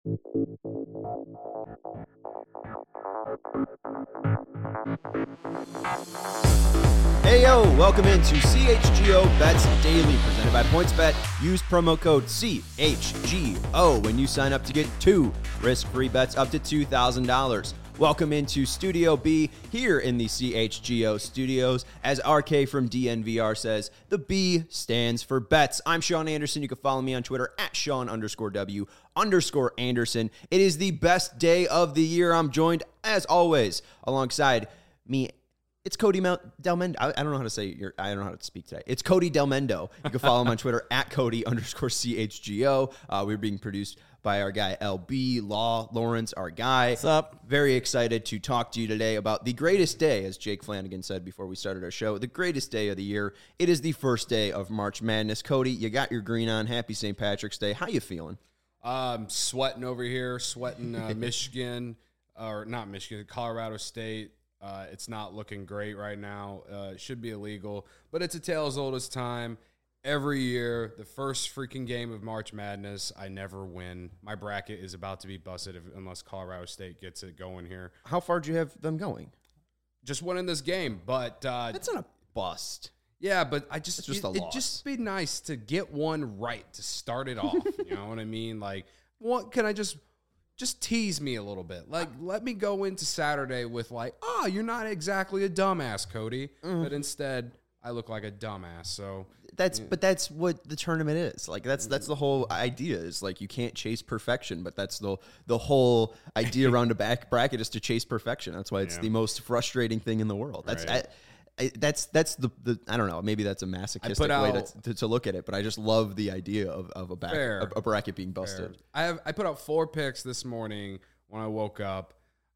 Hey yo, welcome into CHGO Bets Daily, presented by PointsBet. Use promo code CHGO when you sign up to get 2 risk-free bets up to $2,000. Welcome into Studio B here in the CHGO studios. As RK from DNVR says, the B stands for bets. I'm Sean Anderson. You can follow me on Twitter at Sean_W_Anderson. It is the best day of the year. I'm joined, as always, alongside me. It's Cody Delmendo. I don't know how to say I don't know how to speak today. It's Cody Delmendo. You can follow him on Twitter at Cody_CHGO. We're being produced by our guy LB Lawrence, our guy. What's up? Very excited to talk to you today about the greatest day, as Jake Flanagan said before we started our show, the greatest day of the year. It is the first day of March Madness. Cody, you got your green on. Happy St. Patrick's Day. How you feeling? Sweating over here, Michigan, or not Michigan, Colorado State. It's not looking great right now. It should be illegal, but it's a tale as old as time. Every year, the first freaking game of March Madness, I never win. My bracket is about to be busted unless Colorado State gets it going here. How far do you have them going? Just winning this game, but That's not a bust. yeah, but I just It's just a it'd loss. just be nice to get one right to start it off. You know what I mean? Like, what can I just tease me a little bit? Like, let me go into Saturday with like, oh, you're not exactly a dumbass, Cody, but instead I look like a dumbass. So But that's what the tournament is. Like that's the whole idea is like you can't chase perfection, but that's the whole idea around a back bracket is to chase perfection. That's why it's the most frustrating thing in the world. That's Right. that's the I don't know, maybe that's a masochistic way to look at it, but I just love the idea of a bracket being busted. I put out 4 picks this morning when I woke up.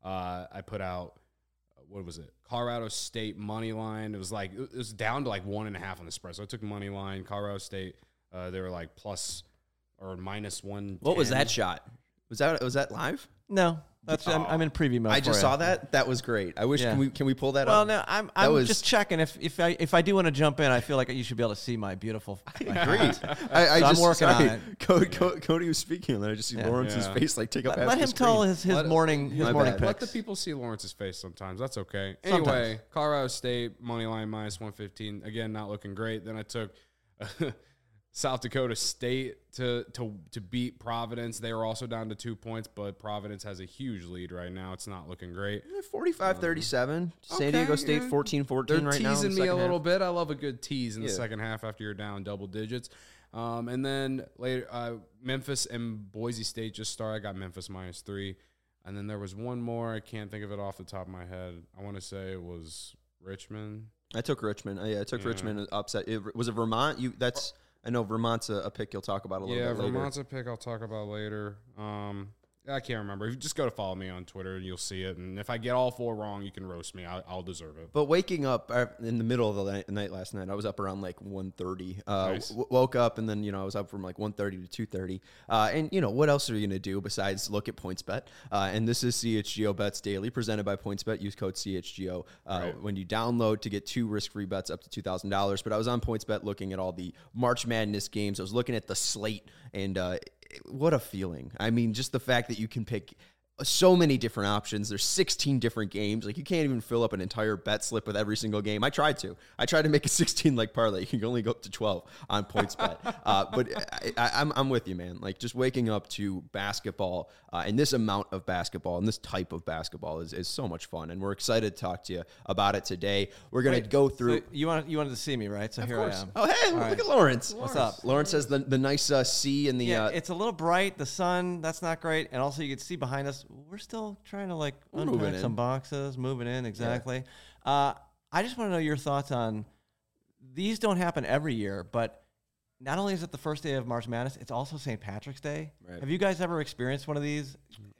I put out, what was it? Colorado State money line. It was down to like 1.5 on the spread. So I took money line. Colorado State, they were like plus or minus 110. What was that shot? Was that live? No, I'm in preview mode. I just saw that. That was great. I wish. Yeah. Can we pull that Well, up? no, I'm just checking. If I do want to jump in, I feel like you should be able to see my beautiful. Great. I'm working on it. Cody was speaking, and then I just see Lawrence's face like take up half Let the him screen. tell his morning bad. picks. Let the people see Lawrence's face sometimes. That's okay. Sometimes. Anyway, Colorado State money line minus 115. Again, not looking great. Then I took South Dakota State to beat Providence. They were also down to 2 points, but Providence has a huge lead right now. It's not looking great. 45-37. San Diego State 14-14 They're right now. teasing me a little bit. I love a good tease in the second half after you're down double digits. And then later, Memphis and Boise State just started. I got Memphis minus 3. And then there was one more. I can't think of it off the top of my head. I want to say it was Richmond. I took Richmond. I took Richmond upset. Was it Vermont? I know Vermont's a pick you'll talk about a little bit later. Yeah, Vermont's a pick I'll talk about later. I can't remember. If you just go to follow me on Twitter and you'll see it. And if I get all 4 wrong, you can roast me. I'll deserve it. But waking up in the middle of the night last night, I was up around like 1:30. Nice. Woke up and then I was up from like 1:30 to 2:30. And what else are you gonna do besides look at PointsBet? And this is CHGO Bets Daily, presented by PointsBet. Use code CHGO when you download to get 2 risk-free bets up to $2,000. But I was on PointsBet looking at all the March Madness games. I was looking at the slate and. What a feeling. I mean, just the fact that you can pick so many different options. There's 16 different games. Like, you can't even fill up an entire bet slip with every single game. I tried to make a 16-leg parlay. You can only go up to 12 on PointsBet. But I'm with you, man. Like, just waking up to basketball and this amount of basketball and this type of basketball is so much fun. And we're excited to talk to you about it today. We're going to go through. So you wanted to see me, right? So here I am. Oh, hey, look at Lawrence. What's up? Lawrence has the nice C in the. Yeah, it's a little bright. The sun, that's not great. And also, you can see behind us, we're still trying to unpack some boxes, moving in, exactly. Yeah. I just want to know your thoughts on, these don't happen every year, but not only is it the first day of March Madness, it's also St. Patrick's Day. Right. Have you guys ever experienced one of these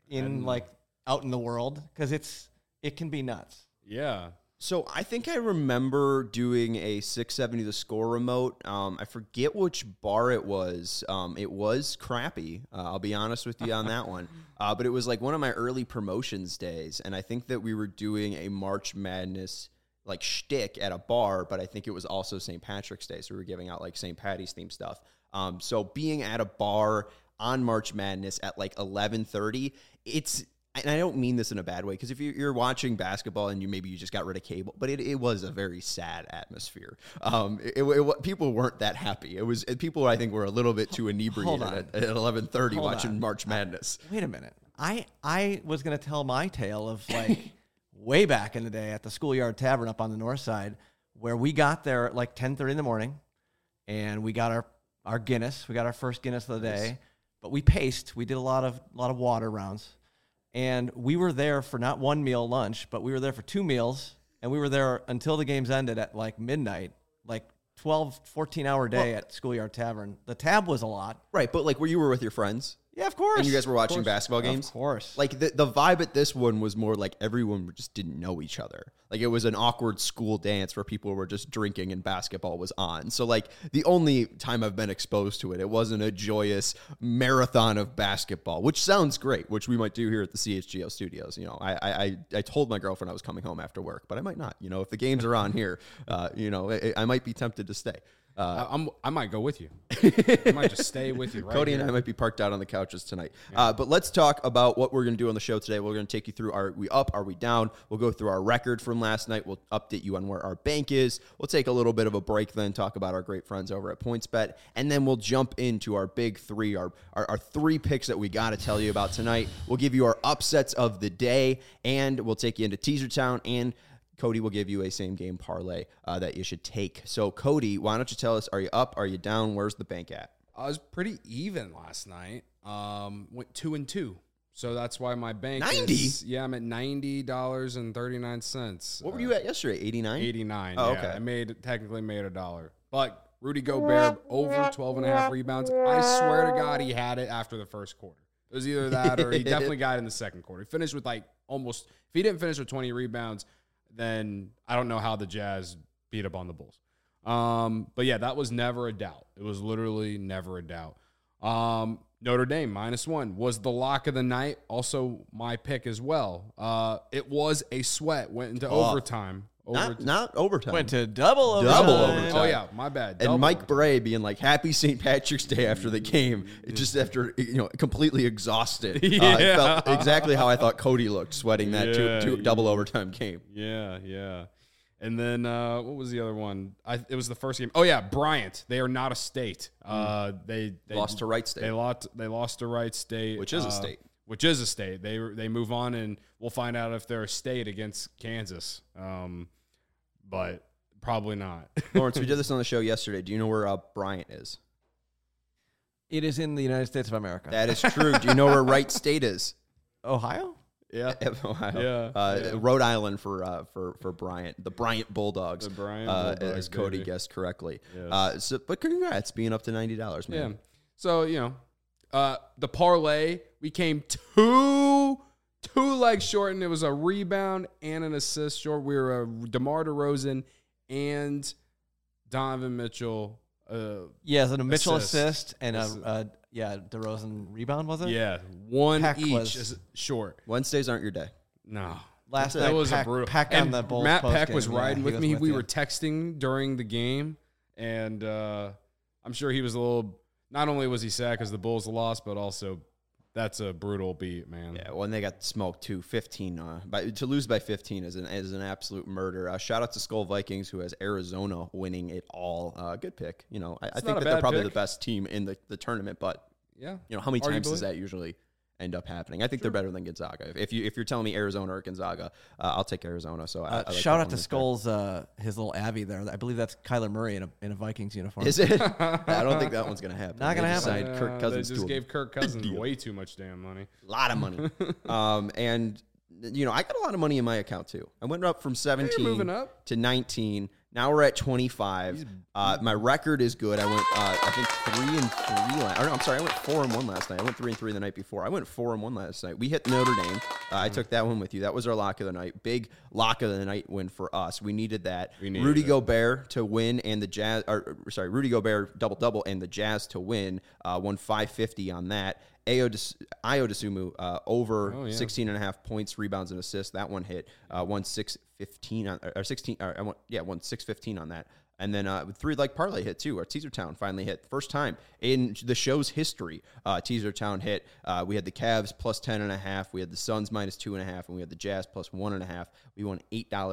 out in the world? Because it can be nuts. Yeah. So I think I remember doing a 670 The Score remote. I forget which bar it was. It was crappy. I'll be honest with you on that one. But it was like one of my early promotions days, and I think that we were doing a March Madness like shtick at a bar, but I think it was also St. Patrick's Day, so we were giving out like St. Patty's themed stuff. So being at a bar, on March Madness at like 11:30, and I don't mean this in a bad way, because if you're watching basketball and maybe you just got rid of cable, but it was a very sad atmosphere. People weren't that happy. People I think were a little bit too inebriated at 11:30 watching March Madness. Wait a minute. I was going to tell my tale of like way back in the day at the Schoolyard Tavern up on the north side, where we got there at like 10:30 in the morning, and we got our Guinness. We got our first Guinness of the day, but we paced. We did a lot of water rounds. And we were there for not one meal lunch, but we were there for 2 meals. And we were there until the games ended at like midnight, like 12, 14-hour day at Schoolyard Tavern. The tab was a lot. Right, but like where you were with your friends. Yeah, of course. And you guys were watching basketball games? Of course. Like the vibe at this one was more like everyone just didn't know each other. Like it was an awkward school dance where people were just drinking and basketball was on. So like the only time I've been exposed to it, it wasn't a joyous marathon of basketball, which sounds great, which we might do here at the CHGO studios. You know, I told my girlfriend I was coming home after work, but I might not. You know, if the games are on here, you know, I might be tempted to stay. I might go with you. I might just stay with you. Right Cody here. and I might be parked out on the couches tonight. Yeah. But let's talk about what we're going to do on the show today. We're going to take you through, are we up? Are we down? We'll go through our record from last night. We'll update you on where our bank is. We'll take a little bit of a break, then talk about our great friends over at PointsBet. And then we'll jump into our big three, our 3 picks that we got to tell you about tonight. We'll give you our upsets of the day, and we'll take you into Teaser Town, and Cody will give you a same-game parlay that you should take. So, Cody, why don't you tell us, are you up? Are you down? Where's the bank at? I was pretty even last night. Went 2-2. So that's why my bank 90? Yeah, I'm at $90.39. What were you at yesterday, 89? 89. Oh, yeah. okay. I technically made $1. But Rudy Gobert over 12.5 rebounds. I swear to God he had it after the first quarter. It was either that or he definitely got it in the second quarter. He finished with if he didn't finish with 20 rebounds, then I don't know how the Jazz beat up on the Bulls. But yeah, that was never a doubt. It was literally never a doubt. Notre Dame -1 was the lock of the night. Also my pick as well. It was a sweat. Went into overtime. Not overtime. Went to double overtime. Oh yeah, my bad. And Mike Bray being like, "Happy St. Patrick's Day" after the game, just after completely exhausted. It felt exactly how I thought Cody looked, sweating that two double overtime game. Yeah. And then what was the other one? It was the first game. Oh yeah, Bryant. They are not a state. They lost to Wright State. They lost to Wright State, which is a state. Which is a state. They move on, and we'll find out if they're a state against Kansas. But probably not. Lawrence, we did this on the show yesterday. Do you know where Bryant is? It is in the United States of America. That is true. Do you know where Wright State is? Ohio? Yeah. Ohio. Yeah. Rhode Island for Bryant. The Bryant Bulldogs. The Bryant Bulldogs, as Cody guessed correctly. Yes. But congrats, being up to $90, man. Yeah. So, the parlay, we came two legs short, and it was a rebound and an assist short. We were DeMar DeRozan and Donovan Mitchell. So Mitchell assist and DeRozan rebound, was it? Yeah, one Peck each is short. Wednesdays aren't your day. No. Last night, was a brutal. Peck on the Bulls Matt post Peck game. was riding with me. We you. were texting during the game, and I'm sure he was a little. Not only was he sad because the Bulls lost, but also that's a brutal beat, man. Yeah, when they got smoked too, 15. To lose by 15 is an absolute murder. Shout out to Skull Vikings, who has Arizona winning it all. Good pick. I think that they're probably the best team in the tournament, but yeah, how many times does that usually end up happening? I think they're better than Gonzaga. If you're telling me Arizona or Gonzaga, I'll take Arizona. So I like shout out to Skull's his little Abby there. I believe that's Kyler Murray in a Vikings uniform. Is it? I don't think that one's gonna happen. Not gonna happen. Signed Kirk Cousins. They just gave Kirk Cousins way too much damn money. A lot of money. And I got a lot of money in my account too. I went up from 17 moving up to 19. Now we're at 25. My record is good. I went, I think 3-3. I went 4-1 last night. I went 3-3 the night before. I went 4-1 last night. We hit Notre Dame. I took that one with you. That was our lock of the night. Big lock of the night win for us. We needed that. Rudy Gobert to win and the Jazz. Rudy Gobert double and the Jazz to win. Won 550 on that. Ayo Dosunmu over 16.5 points, rebounds, and assists. That one hit. Won 615 on 16. Won 615 on that. And then 3-leg parlay hit too. Our Teaser Town finally hit. First time in the show's history, Teaser Town hit. We had the Cavs plus 10.5. We had the Suns minus 2.5. And we had the Jazz plus 1.5. We won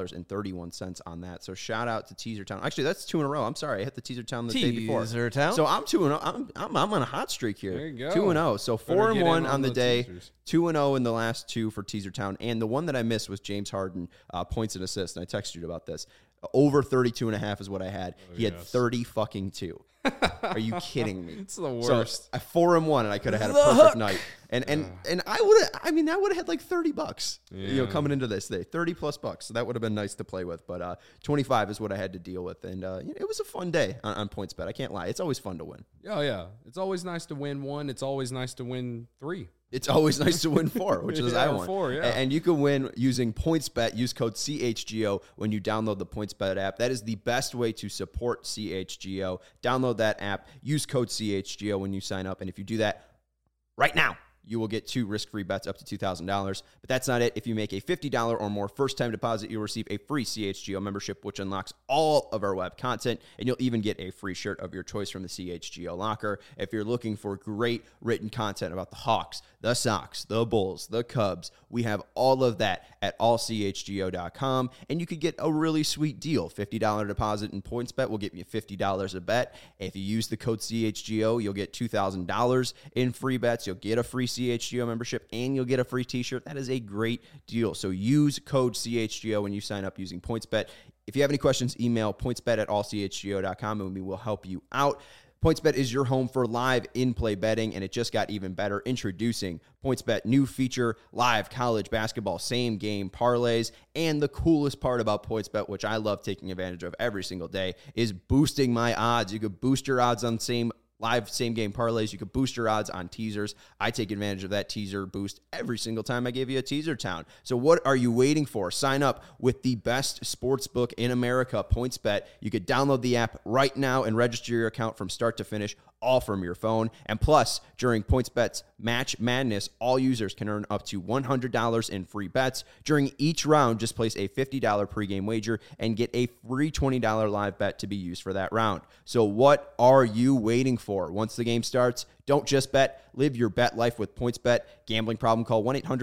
$8.31 on that. So shout out to Teaser Town. Actually, that's 2 in a row. I'm sorry. I hit the Teaser Town the day before. Teaser Town. So I'm 2-0. I'm on a hot streak here. There you go. 2-0. So 4-1 on the day. Teasers. 2-0 in the last 2 for Teaser Town. And the one that I missed was James Harden points and assists. And I texted you about this. Over 32.5 is what I had. He had 30 fucking 2. Are you kidding me? It's the worst. So I 4-1 and I could have had a perfect night. And I would have, I would have had like $30, coming into this day, $30+ So that would have been nice to play with. But 25 is what I had to deal with. And it was a fun day on PointsBet. I can't lie. It's always fun to win. Oh, yeah. It's always nice to win 1. It's always nice to win 3. It's always nice to win 4, which is I want. 4, yeah. And you can win using PointsBet. Use code CHGO when you download the PointsBet app. That is the best way to support CHGO. Download that app. Use code CHGO when you sign up. And if you do that right now, you will get 2 risk-free bets up to $2,000. But that's not it. If you make a $50 or more first-time deposit, you'll receive a free CHGO membership, which unlocks all of our web content, and you'll even get a free shirt of your choice from the CHGO locker. If you're looking for great written content about the Hawks, the Sox, the Bulls, the Cubs, we have all of that at allchgo.com, and you could get a really sweet deal. $50 deposit in PointsBet will get you $50 a bet. If you use the code CHGO, you'll get $2,000 in free bets. You'll get a free CHGO membership, and you'll get a free t-shirt. That is a great deal. So use code CHGO when you sign up using PointsBet. If you have any questions, email pointsbet@allchgo.com, and we will help you out. PointsBet is your home for live in-play betting, and it just got even better. Introducing PointsBet new feature, live college basketball same-game parlays, and the coolest part about PointsBet, which I love taking advantage of every single day, is boosting my odds. You could boost your odds on live same-game parlays. You could boost your odds on teasers. I take advantage of that teaser boost every single time I give you a Teaser Town. So what are you waiting for? Sign up with the best sports book in America, PointsBet. You could download the app right now and register your account from start to finish, all from your phone. And plus, during PointsBet's Match Madness, all users can earn up to $100 in free bets. During each round, just place a $50 pregame wager and get a free $20 live bet to be used for that round. So what are you waiting for? Once the game starts, don't just bet. Live your bet life with PointsBet. Gambling problem? Call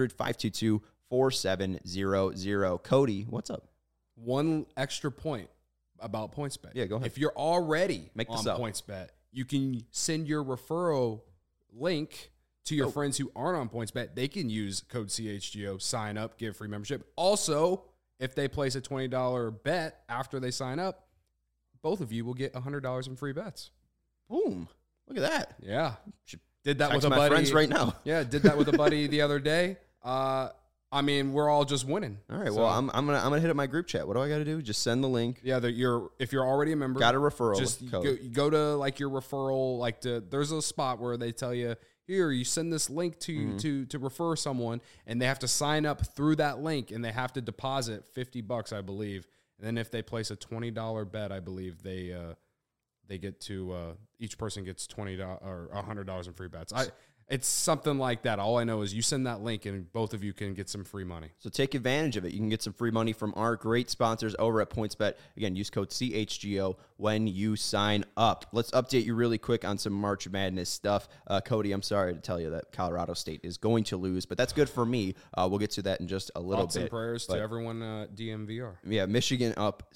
1-800-522-4700. Cody, what's up? One extra point about PointsBet. Yeah, go ahead. If you're already Make on this up. PointsBet, you can send your referral link to your friends who aren't on PointsBet. They can use code CHGO, sign up, get a free membership. Also, if they place a $20 bet after they sign up, both of you will get $100 in free bets. Boom. Look at that. Yeah. Should Did that text with a my buddy. friends right now. Yeah, did that with a buddy the other day. We're all just winning. All right. So, Well, I'm gonna hit up my group chat. What do I got to do? Just send the link. yeah, if you're already a member, Got a referral just code. go to like your referral, there's a spot where they tell you, here, you send this link to to refer someone, and they have to sign up through that link, and they have to deposit $50, I believe. And then if they place a $20 bet, I believe they get to each person gets $20 or $100 in free bets. It's something like that. All I know is you send that link, and both of you can get some free money. So take advantage of it. You can get some free money from our great sponsors over at PointsBet. Again, use code CHGO when you sign up. Let's update you really quick on some March Madness stuff. Cody, I'm sorry to tell you that Colorado State is going to lose, but that's good for me. We'll get to that in just a little Thoughts bit. and prayers to everyone DMVR. Yeah, Michigan up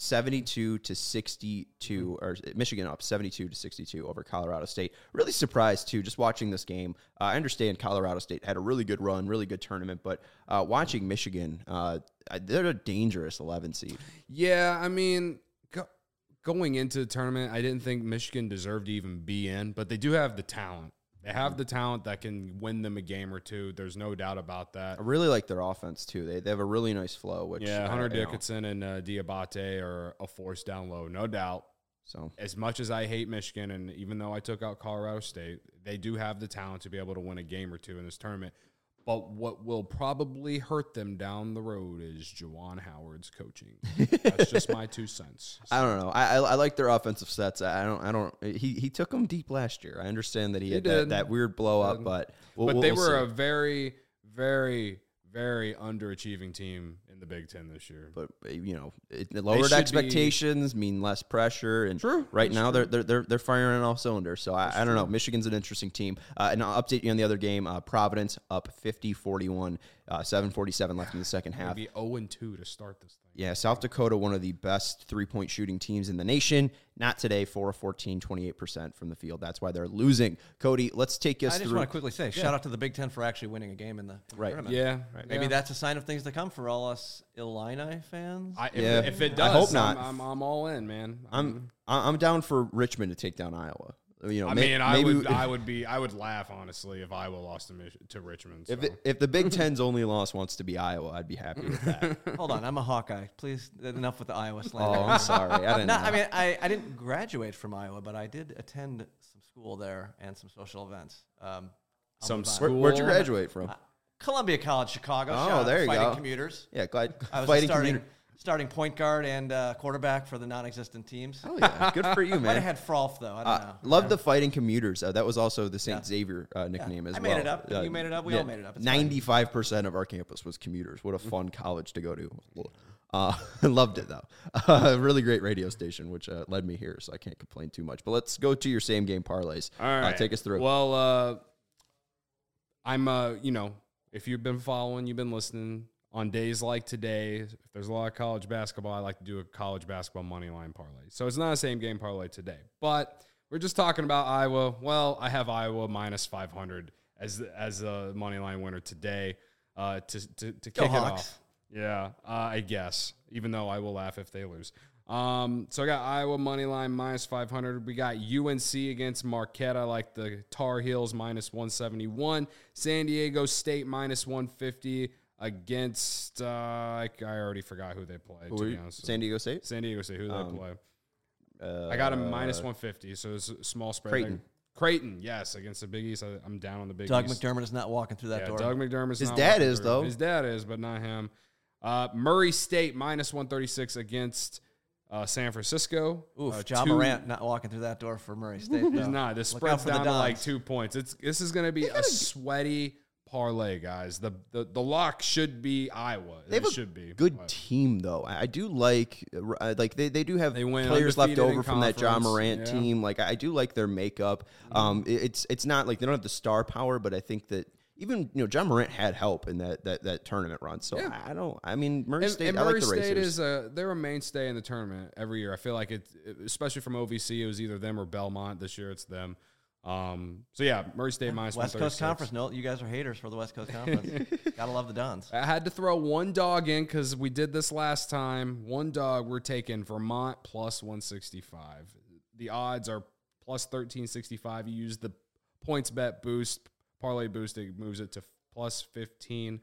72-62, or Michigan up 72-62 over Colorado State. Really surprised too, just watching this game. I understand Colorado State had a really good run, really good tournament, but watching Michigan, they're a dangerous 11 seed. Yeah, I mean, going into the tournament, I didn't think Michigan deserved to even be in, but they do have the talent. They have the talent that can win them a game or two. There's no doubt about that. I really like their offense, too. They have a really nice flow. Which Hunter Dickinson and Diabate are a force down low, no doubt. So as much as I hate Michigan, and even though I took out Colorado State, they do have the talent to be able to win a game or two in this tournament. But what will probably hurt them down the road is Juwan Howard's coaching. That's just my 2 cents. I don't know. I like their offensive sets. He took them deep last year. I understand that he had that weird blow up, but They were a very, very, very underachieving team in the Big Ten this year. But lowered expectations mean less pressure, and right now they're firing on all cylinders. So I don't know. Michigan's an interesting team, and I'll update you on the other game. Providence up 50-41, 7:47 left in the second half. Maybe 0-2 to start this thing. Yeah, South Dakota, one of the best three-point shooting teams in the nation. Not today, 4 of 14, 28% from the field. That's why they're losing. Cody, let's take us through. I just want to quickly say, shout out to the Big Ten for actually winning a game in the tournament. Yeah. Maybe that's a sign of things to come for all us Illini fans. If it does, I hope not. I'm all in, man. I'm down for Richmond to take down Iowa. I would laugh honestly if Iowa lost to Richmond. So. If the Big Ten's only loss wants to be Iowa, I'd be happy with that. Hold on, I'm a Hawkeye. Please, enough with the Iowa slander. Oh, I'm sorry. I didn't graduate from Iowa, but I did attend some school there and some social events. Where'd you graduate from? Columbia College, Chicago. Oh, there you Fighting go. Commuters. Yeah, glad. I was starting point guard and quarterback for the non-existent teams. Oh yeah, good for you, man. Might have had Frolf though. I don't know. Love the Fighting Commuters. That was also the St. Xavier nickname as well. I made it up. You made it up. We all made it up. 95% of our campus was commuters. What a fun college to go to. Loved it though. Really great radio station, which led me here, so I can't complain too much. But let's go to your same game parlays. All right, take us through. Well, I'm if you've been following, you've been listening. On days like today, if there's a lot of college basketball, I like to do a college basketball money line parlay. So it's not a same game parlay today, but we're just talking about Iowa. Well, I have Iowa minus 500 as a money line winner today to kick it off. Yeah, I guess, even though I will laugh if they lose. So I got Iowa money line minus 500. We got UNC against Marquette. I like the Tar Heels minus 171. San Diego State minus 150. Against, I already forgot who they play. To be honest. San Diego State? San Diego State, who do they play? I got them minus 150, so it's a small spread. Creighton, yes, against the Big East. I'm down on the Big East. Doug McDermott is not walking through that door. Doug McDermott's His not dad walking is, through. though. His dad is, but not him. Murray State minus 136 against San Francisco. Ja Morant not walking through that door for Murray State. He's not. The spread's down to like 2 points. This is going to be a sweaty parlay, guys. The lock should be Iowa. They should be good team though. I do like they do have players left over from that Ja Morant team. Like I do like their makeup. It's not like they don't have the star power, but I think that even Ja Morant had help in that tournament run. So Murray State. I like the Racers. State is they're a mainstay in the tournament every year. I feel like especially from OVC, it was either them or Belmont. This year it's them. Murray State minus West Coast Conference. No, you guys are haters for the West Coast Conference. Gotta love the Dons. I had to throw one dog in because we did this last time. One dog, we're taking Vermont plus 165. The odds are plus 1365. You use the points bet boost, parlay boost, it moves it to plus 1511.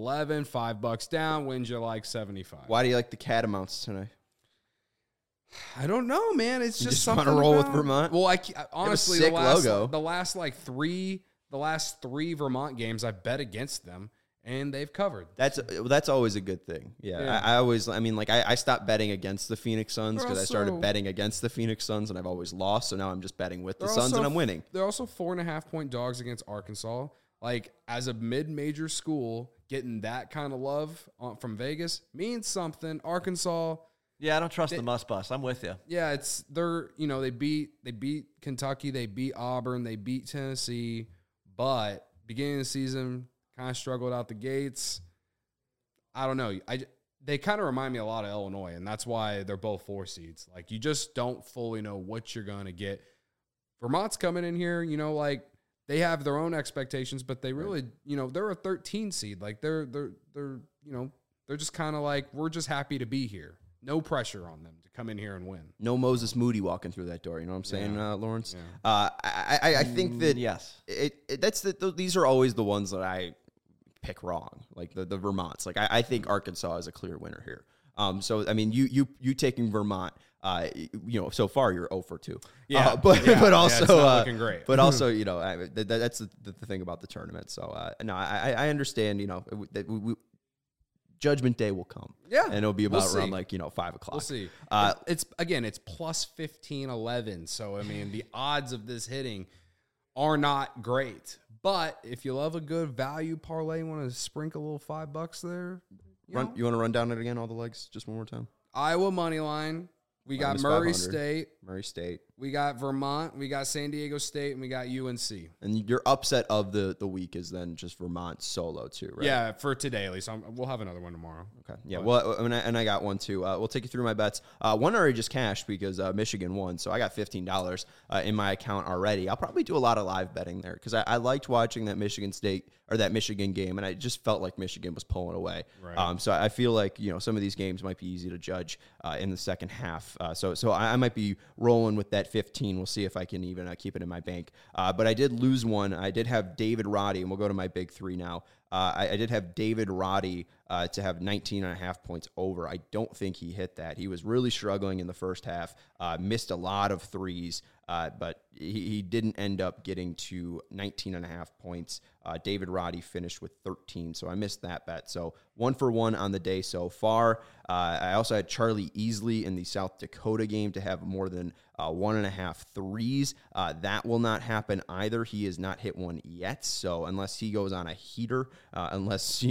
$5 down, wins you like 75. Why do you like the Catamounts tonight? I don't know, man. It's just something. Want to roll with Vermont? Well, honestly, the last three Vermont games, I bet against them, and they've covered. That's always a good thing. Yeah. I stopped betting against the Phoenix Suns because I started betting against the Phoenix Suns, and I've always lost. So now I'm just betting with the Suns, and I'm winning. They're also 4.5-point dogs against Arkansas. Like, as a mid-major school, getting that kind of love from Vegas means something. Arkansas. Yeah, I don't trust the must bus. I'm with you. Yeah, they beat Kentucky, they beat Auburn, they beat Tennessee, but beginning of the season kind of struggled out the gates. I don't know. They kind of remind me a lot of Illinois, and that's why they're both 4 seeds. Like, you just don't fully know what you're going to get. Vermont's coming in here, they have their own expectations, but they really, they're a 13 seed. Like, they're just kind of like, we're just happy to be here. No pressure on them to come in here and win. No Moses Moody walking through that door. You know what I'm saying, Lawrence? Yeah. I think that yes, these are always the ones that I pick wrong, like the Vermonts. Like I think Arkansas is a clear winner here. So I mean, you taking Vermont. So far you're 0 for 2. Yeah, but also it's not looking great. But also, that's the thing about the tournament. So I understand. That we Judgment Day will come. Yeah. And it'll be about around 5 o'clock. We'll see. It's plus 1511. So, I mean, the odds of this hitting are not great. But if you love a good value parlay, you want to sprinkle a little $5 there. You want to run down it again, all the legs, just one more time? Iowa money line. We got Murray State. Murray State. We got Vermont. We got San Diego State, and we got UNC. And your upset of the week is then just Vermont solo too, right? Yeah, for today at least. We'll have another one tomorrow. Okay. Yeah. Well, and I got one too. We'll take you through my bets. One already just cashed because Michigan won, so I got $15 in my account already. I'll probably do a lot of live betting there because I liked watching that Michigan game, and I just felt like Michigan was pulling away. Right. So I feel like some of these games might be easy to judge in the second half. So I might be rolling with that 15. We'll see if I can even keep it in my bank. But I did lose one. I did have David Roddy, and we'll go to my big three now. I did have David Roddy to have 19.5 points over. I don't think he hit that. He was really struggling in the first half, missed a lot of threes, but he didn't end up getting to 19.5 points. David Roddy finished with 13, so I missed that bet. So 1 for 1 on the day so far. I also had Charlie Easley in the South Dakota game to have more than 1.5 threes. That will not happen either. He has not hit one yet, so unless he goes on a heater, unless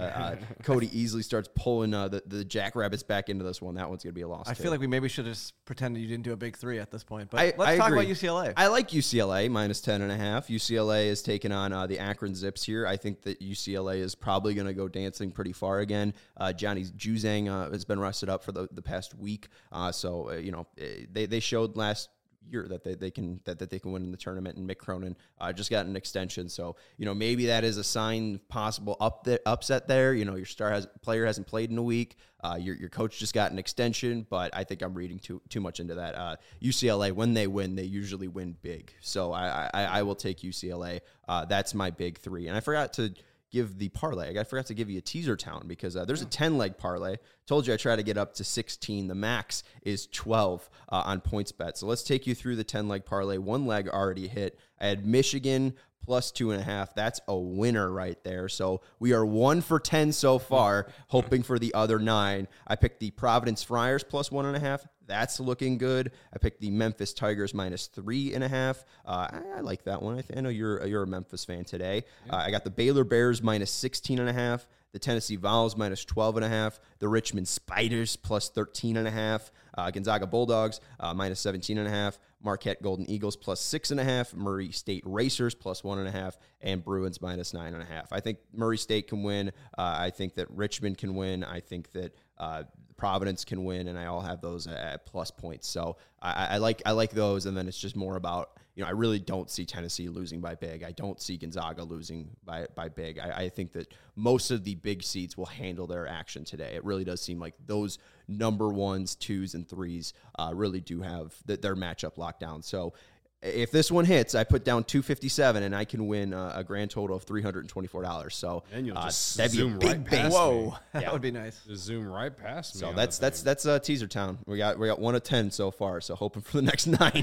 Cody Easley starts pulling the Jackrabbits back into this one, that one's going to be a loss. I feel like we maybe should have pretended you didn't do a big three at this point. But let's talk about UCLA. I like UCLA minus 10.5. UCLA is taking on the Akron Zips here. I think that UCLA is probably going to go dancing pretty far again. Johnny Juzang has been rested up for the past week, so they showed last year that they can win in the tournament, and Mick Cronin just got an extension, so maybe that is a sign possible upset there. Your player hasn't played in a week. Your coach just got an extension, but I think I'm reading too much into that. UCLA, when they win, they usually win big, so I will take UCLA. That's my big three, and I forgot to give the parlay. I forgot to give you a teaser town because there's a 10-leg parlay. Told you I try to get up to 16. The max is 12 on PointsBet. So let's take you through the 10-leg parlay. One leg already hit. I had Michigan plus 2.5. That's a winner right there. So we are 1 for 10 so far, hoping for the other 9. I picked the Providence Friars plus 1.5. That's looking good. I picked the Memphis Tigers minus 3.5. I like that one. I know you're a Memphis fan today. I got the Baylor Bears minus 16.5. The Tennessee Vols minus 12.5. The Richmond Spiders plus 13.5. Gonzaga Bulldogs minus 17.5. Marquette Golden Eagles plus 6.5. Murray State Racers plus 1.5. And Bruins minus 9.5. I think Murray State can win. I think that Richmond can win. I think that Providence can win, and I all have those at plus points. So I like those, and then it's just more about, I really don't see Tennessee losing by big. I don't see Gonzaga losing by big. I think that most of the big seeds will handle their action today. It really does seem like those number 1s, 2s, and 3s really do have their matchup locked down. So if this one hits, I put down $257, and I can win a grand total of $324. So and you'll just that'd zoom be a big right base. past Whoa, me. that would be nice. Just zoom right past me. So that's teaser town. We got 1 of 10 so far. So hoping for the next 9.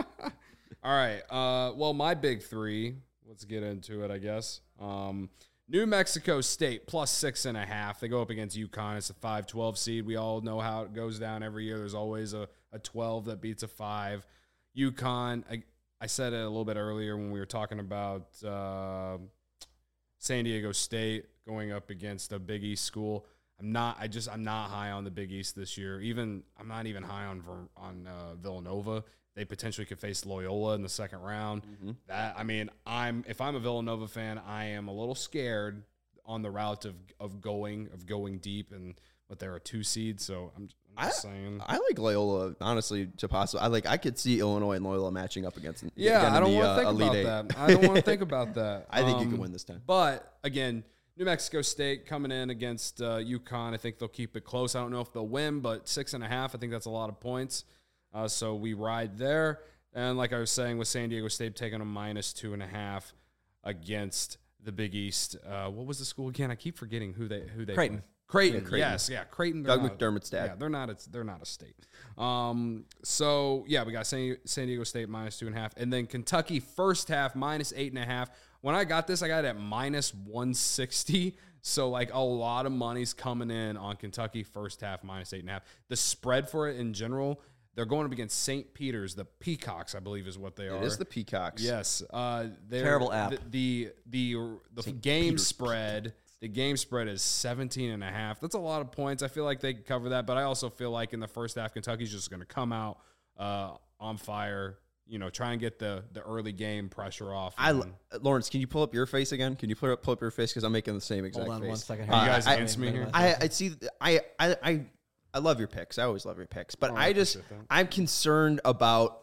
All right. Well, my big three. Let's get into it, I guess. New Mexico State plus 6.5. They go up against UConn. It's a 5-12 seed. We all know how it goes down every year. There's always a 12 that beats a 5. UConn, I said it a little bit earlier when we were talking about San Diego State going up against a Big East school. I'm not high on the Big East this year. I'm not even high on Villanova. They potentially could face Loyola in the second round. Mm-hmm. If I'm a Villanova fan, I am a little scared on the route of going deep, but they're a 2 seed, so I'm just saying. I like Loyola, honestly, to possibly. I could see Illinois and Loyola matching up against. Yeah, I don't want to think about that. I don't want to think about that. I think you can win this time. But again, New Mexico State coming in against UConn. I think they'll keep it close. I don't know if they'll win, but 6.5. I think that's a lot of points. So we ride there. And like I was saying, with San Diego State taking a minus 2.5 against the Big East. What was the school again? I keep forgetting who they Creighton. Play. Creighton. Yes, yeah, Creighton. Doug McDermott's dad. Yeah, they're not a state. So yeah, we got San Diego State minus 2.5, and then Kentucky first half minus 8.5. When I got this, I got it at minus 160. So like a lot of money's coming in on Kentucky first half minus 8.5. The spread for it in general, They're going up against St. Peter's, the Peacocks, I believe is what they are. It is the Peacocks. Yes. Terrible app. The game spread. The game spread is 17.5. That's a lot of points. I feel like they could cover that, but I also feel like in the first half, Kentucky's just going to come out on fire. Try and get the early game pressure off. Lawrence, can you pull up your face again? Can you pull up your face because I'm making the same exact face. Hold on 1 second. Are you guys against me here? I love your picks. I always love your picks, but I'm concerned about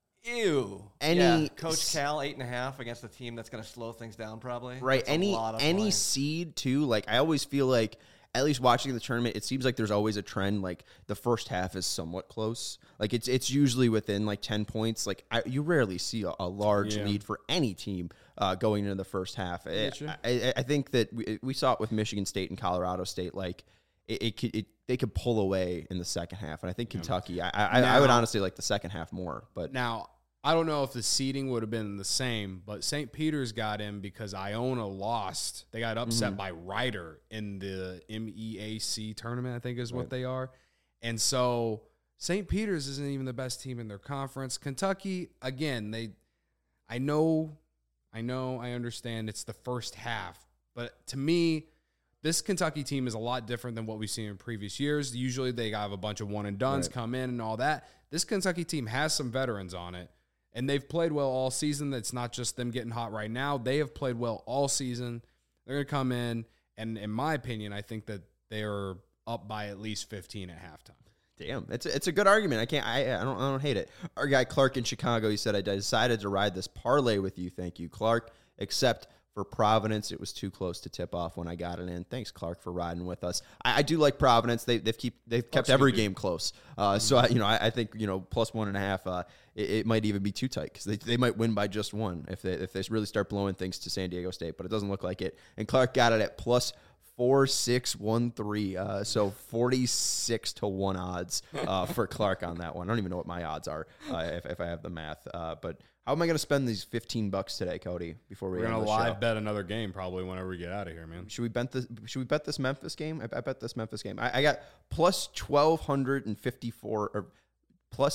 Coach Cal 8.5 against a team that's going to slow things down probably. Right. Any seed too. Like I always feel like, at least watching the tournament, it seems like there's always a trend. Like the first half is somewhat close. Like it's usually within like 10 points. Like you rarely see a large lead for any team going into the first half. I think that we saw it with Michigan State and Colorado State. Like they could pull away in the second half, and I think Kentucky. I would honestly like the second half more. But now I don't know if the seeding would have been the same, but St. Peter's got in because Iona lost. They got upset by Rider in the MEAC tournament, I think is what they are. And so St. Peter's isn't even the best team in their conference. Kentucky, again, I understand it's the first half, but to me, this Kentucky team is a lot different than what we've seen in previous years. Usually they have a bunch of one-and-dones come in and all that. This Kentucky team has some veterans on it. And they've played well all season. It's not just them getting hot right now. They have played well all season. They're going to come in, and in my opinion, I think that they are up by at least 15 at halftime. Damn, it's a good argument. I don't hate it. Our guy Clark in Chicago, he said, I decided to ride this parlay with you. Thank you, Clark. Except for Providence, it was too close to tip off when I got it in. Thanks, Clark, for riding with us. I do like Providence. They've kept every game close. So I think plus 1.5. It might even be too tight because they might win by just one if they really start blowing things to San Diego State. But it doesn't look like it. And Clark got it at plus 4,613. So 46 to 1 odds for Clark on that one. I don't even know what my odds are if I have the math. But how am I going to spend these $15 today, Cody? Before we're going to live bet another game probably whenever we get out of here, man. Should we bet this Memphis game? I bet this Memphis game. I got plus 1,254 or plus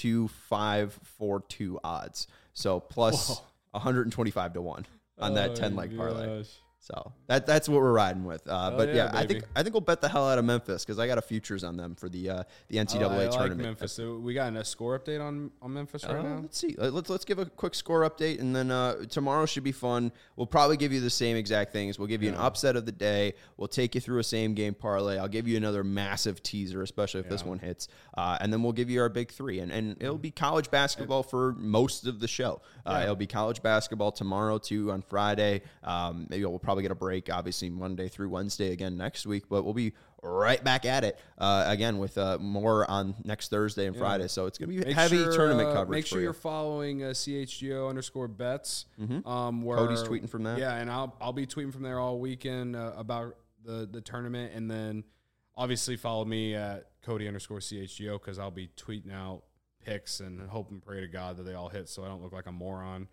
12542 odds. So plus 125 to 1 on that 10-leg parlay. Gosh. So that's what we're riding with. But yeah, I think we'll bet the hell out of Memphis because I got a futures on them for the NCAA tournament. Like Memphis. So we got a score update on Memphis right now. Let's see. Let's give a quick score update, and then tomorrow should be fun. We'll probably give you the same exact things. We'll give you an upset of the day. We'll take you through a same game parlay. I'll give you another massive teaser, especially if this one hits, and then we'll give you our big three. And it'll be college basketball for most of the show. It'll be college basketball tomorrow too on Friday. Maybe we'll probably get a break, obviously Monday through Wednesday again next week, but we'll be right back at it again with more on next Thursday and Friday. So it's going to be heavy tournament coverage. Make sure you're following CHGO_bets. Where Cody's tweeting from that. Yeah, and I'll be tweeting from there all weekend about the tournament, and then obviously follow me at Cody_CHGO because I'll be tweeting out picks and hope and pray to God that they all hit so I don't look like a moron.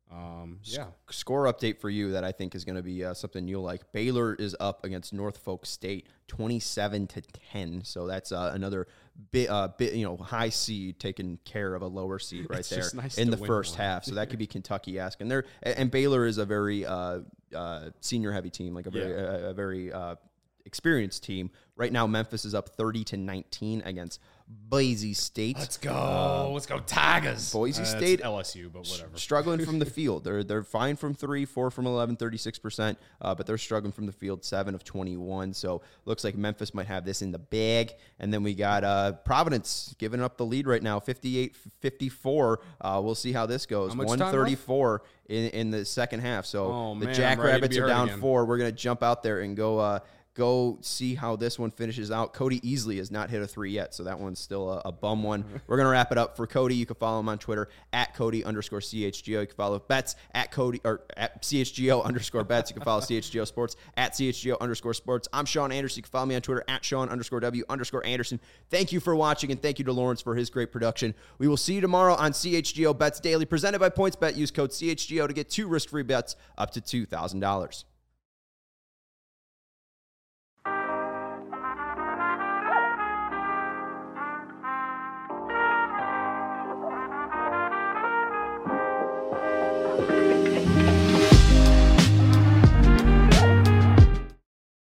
Score update for you that I think is going to be something you'll like. Baylor is up against Norfolk State 27-10. So that's another bit high seed taking care of a lower seed right there in the first half. So that could be Kentucky-esque. And Baylor is a very senior heavy team, like a very experienced team. Right now, Memphis is up 30-19 against Boise State. Let's go. Let's go Tigers. Boise State. LSU, but whatever. Struggling from the field. They're fine from 3, 4 from 11, 36%, but they're struggling from the field, 7 of 21. So looks like Memphis might have this in the bag. And then we got Providence giving up the lead right now, 58-54. We'll see how this goes. 134 in the second half. So the Jackrabbits are down 4. We're going to jump out there and go see how this one finishes out. Cody Easley has not hit a 3 yet, so that one's still a bum one. We're going to wrap it up for Cody. You can follow him on Twitter at Cody_CHGO. You can follow Bets at CHGO_Bets. You can follow CHGO Sports at CHGO_Sports. I'm Sean Anderson. You can follow me on Twitter at Sean_W_Anderson. Thank you for watching, and thank you to Lawrence for his great production. We will see you tomorrow on CHGO Bets Daily, presented by PointsBet. Use code CHGO to get 2 risk-free bets up to $2,000.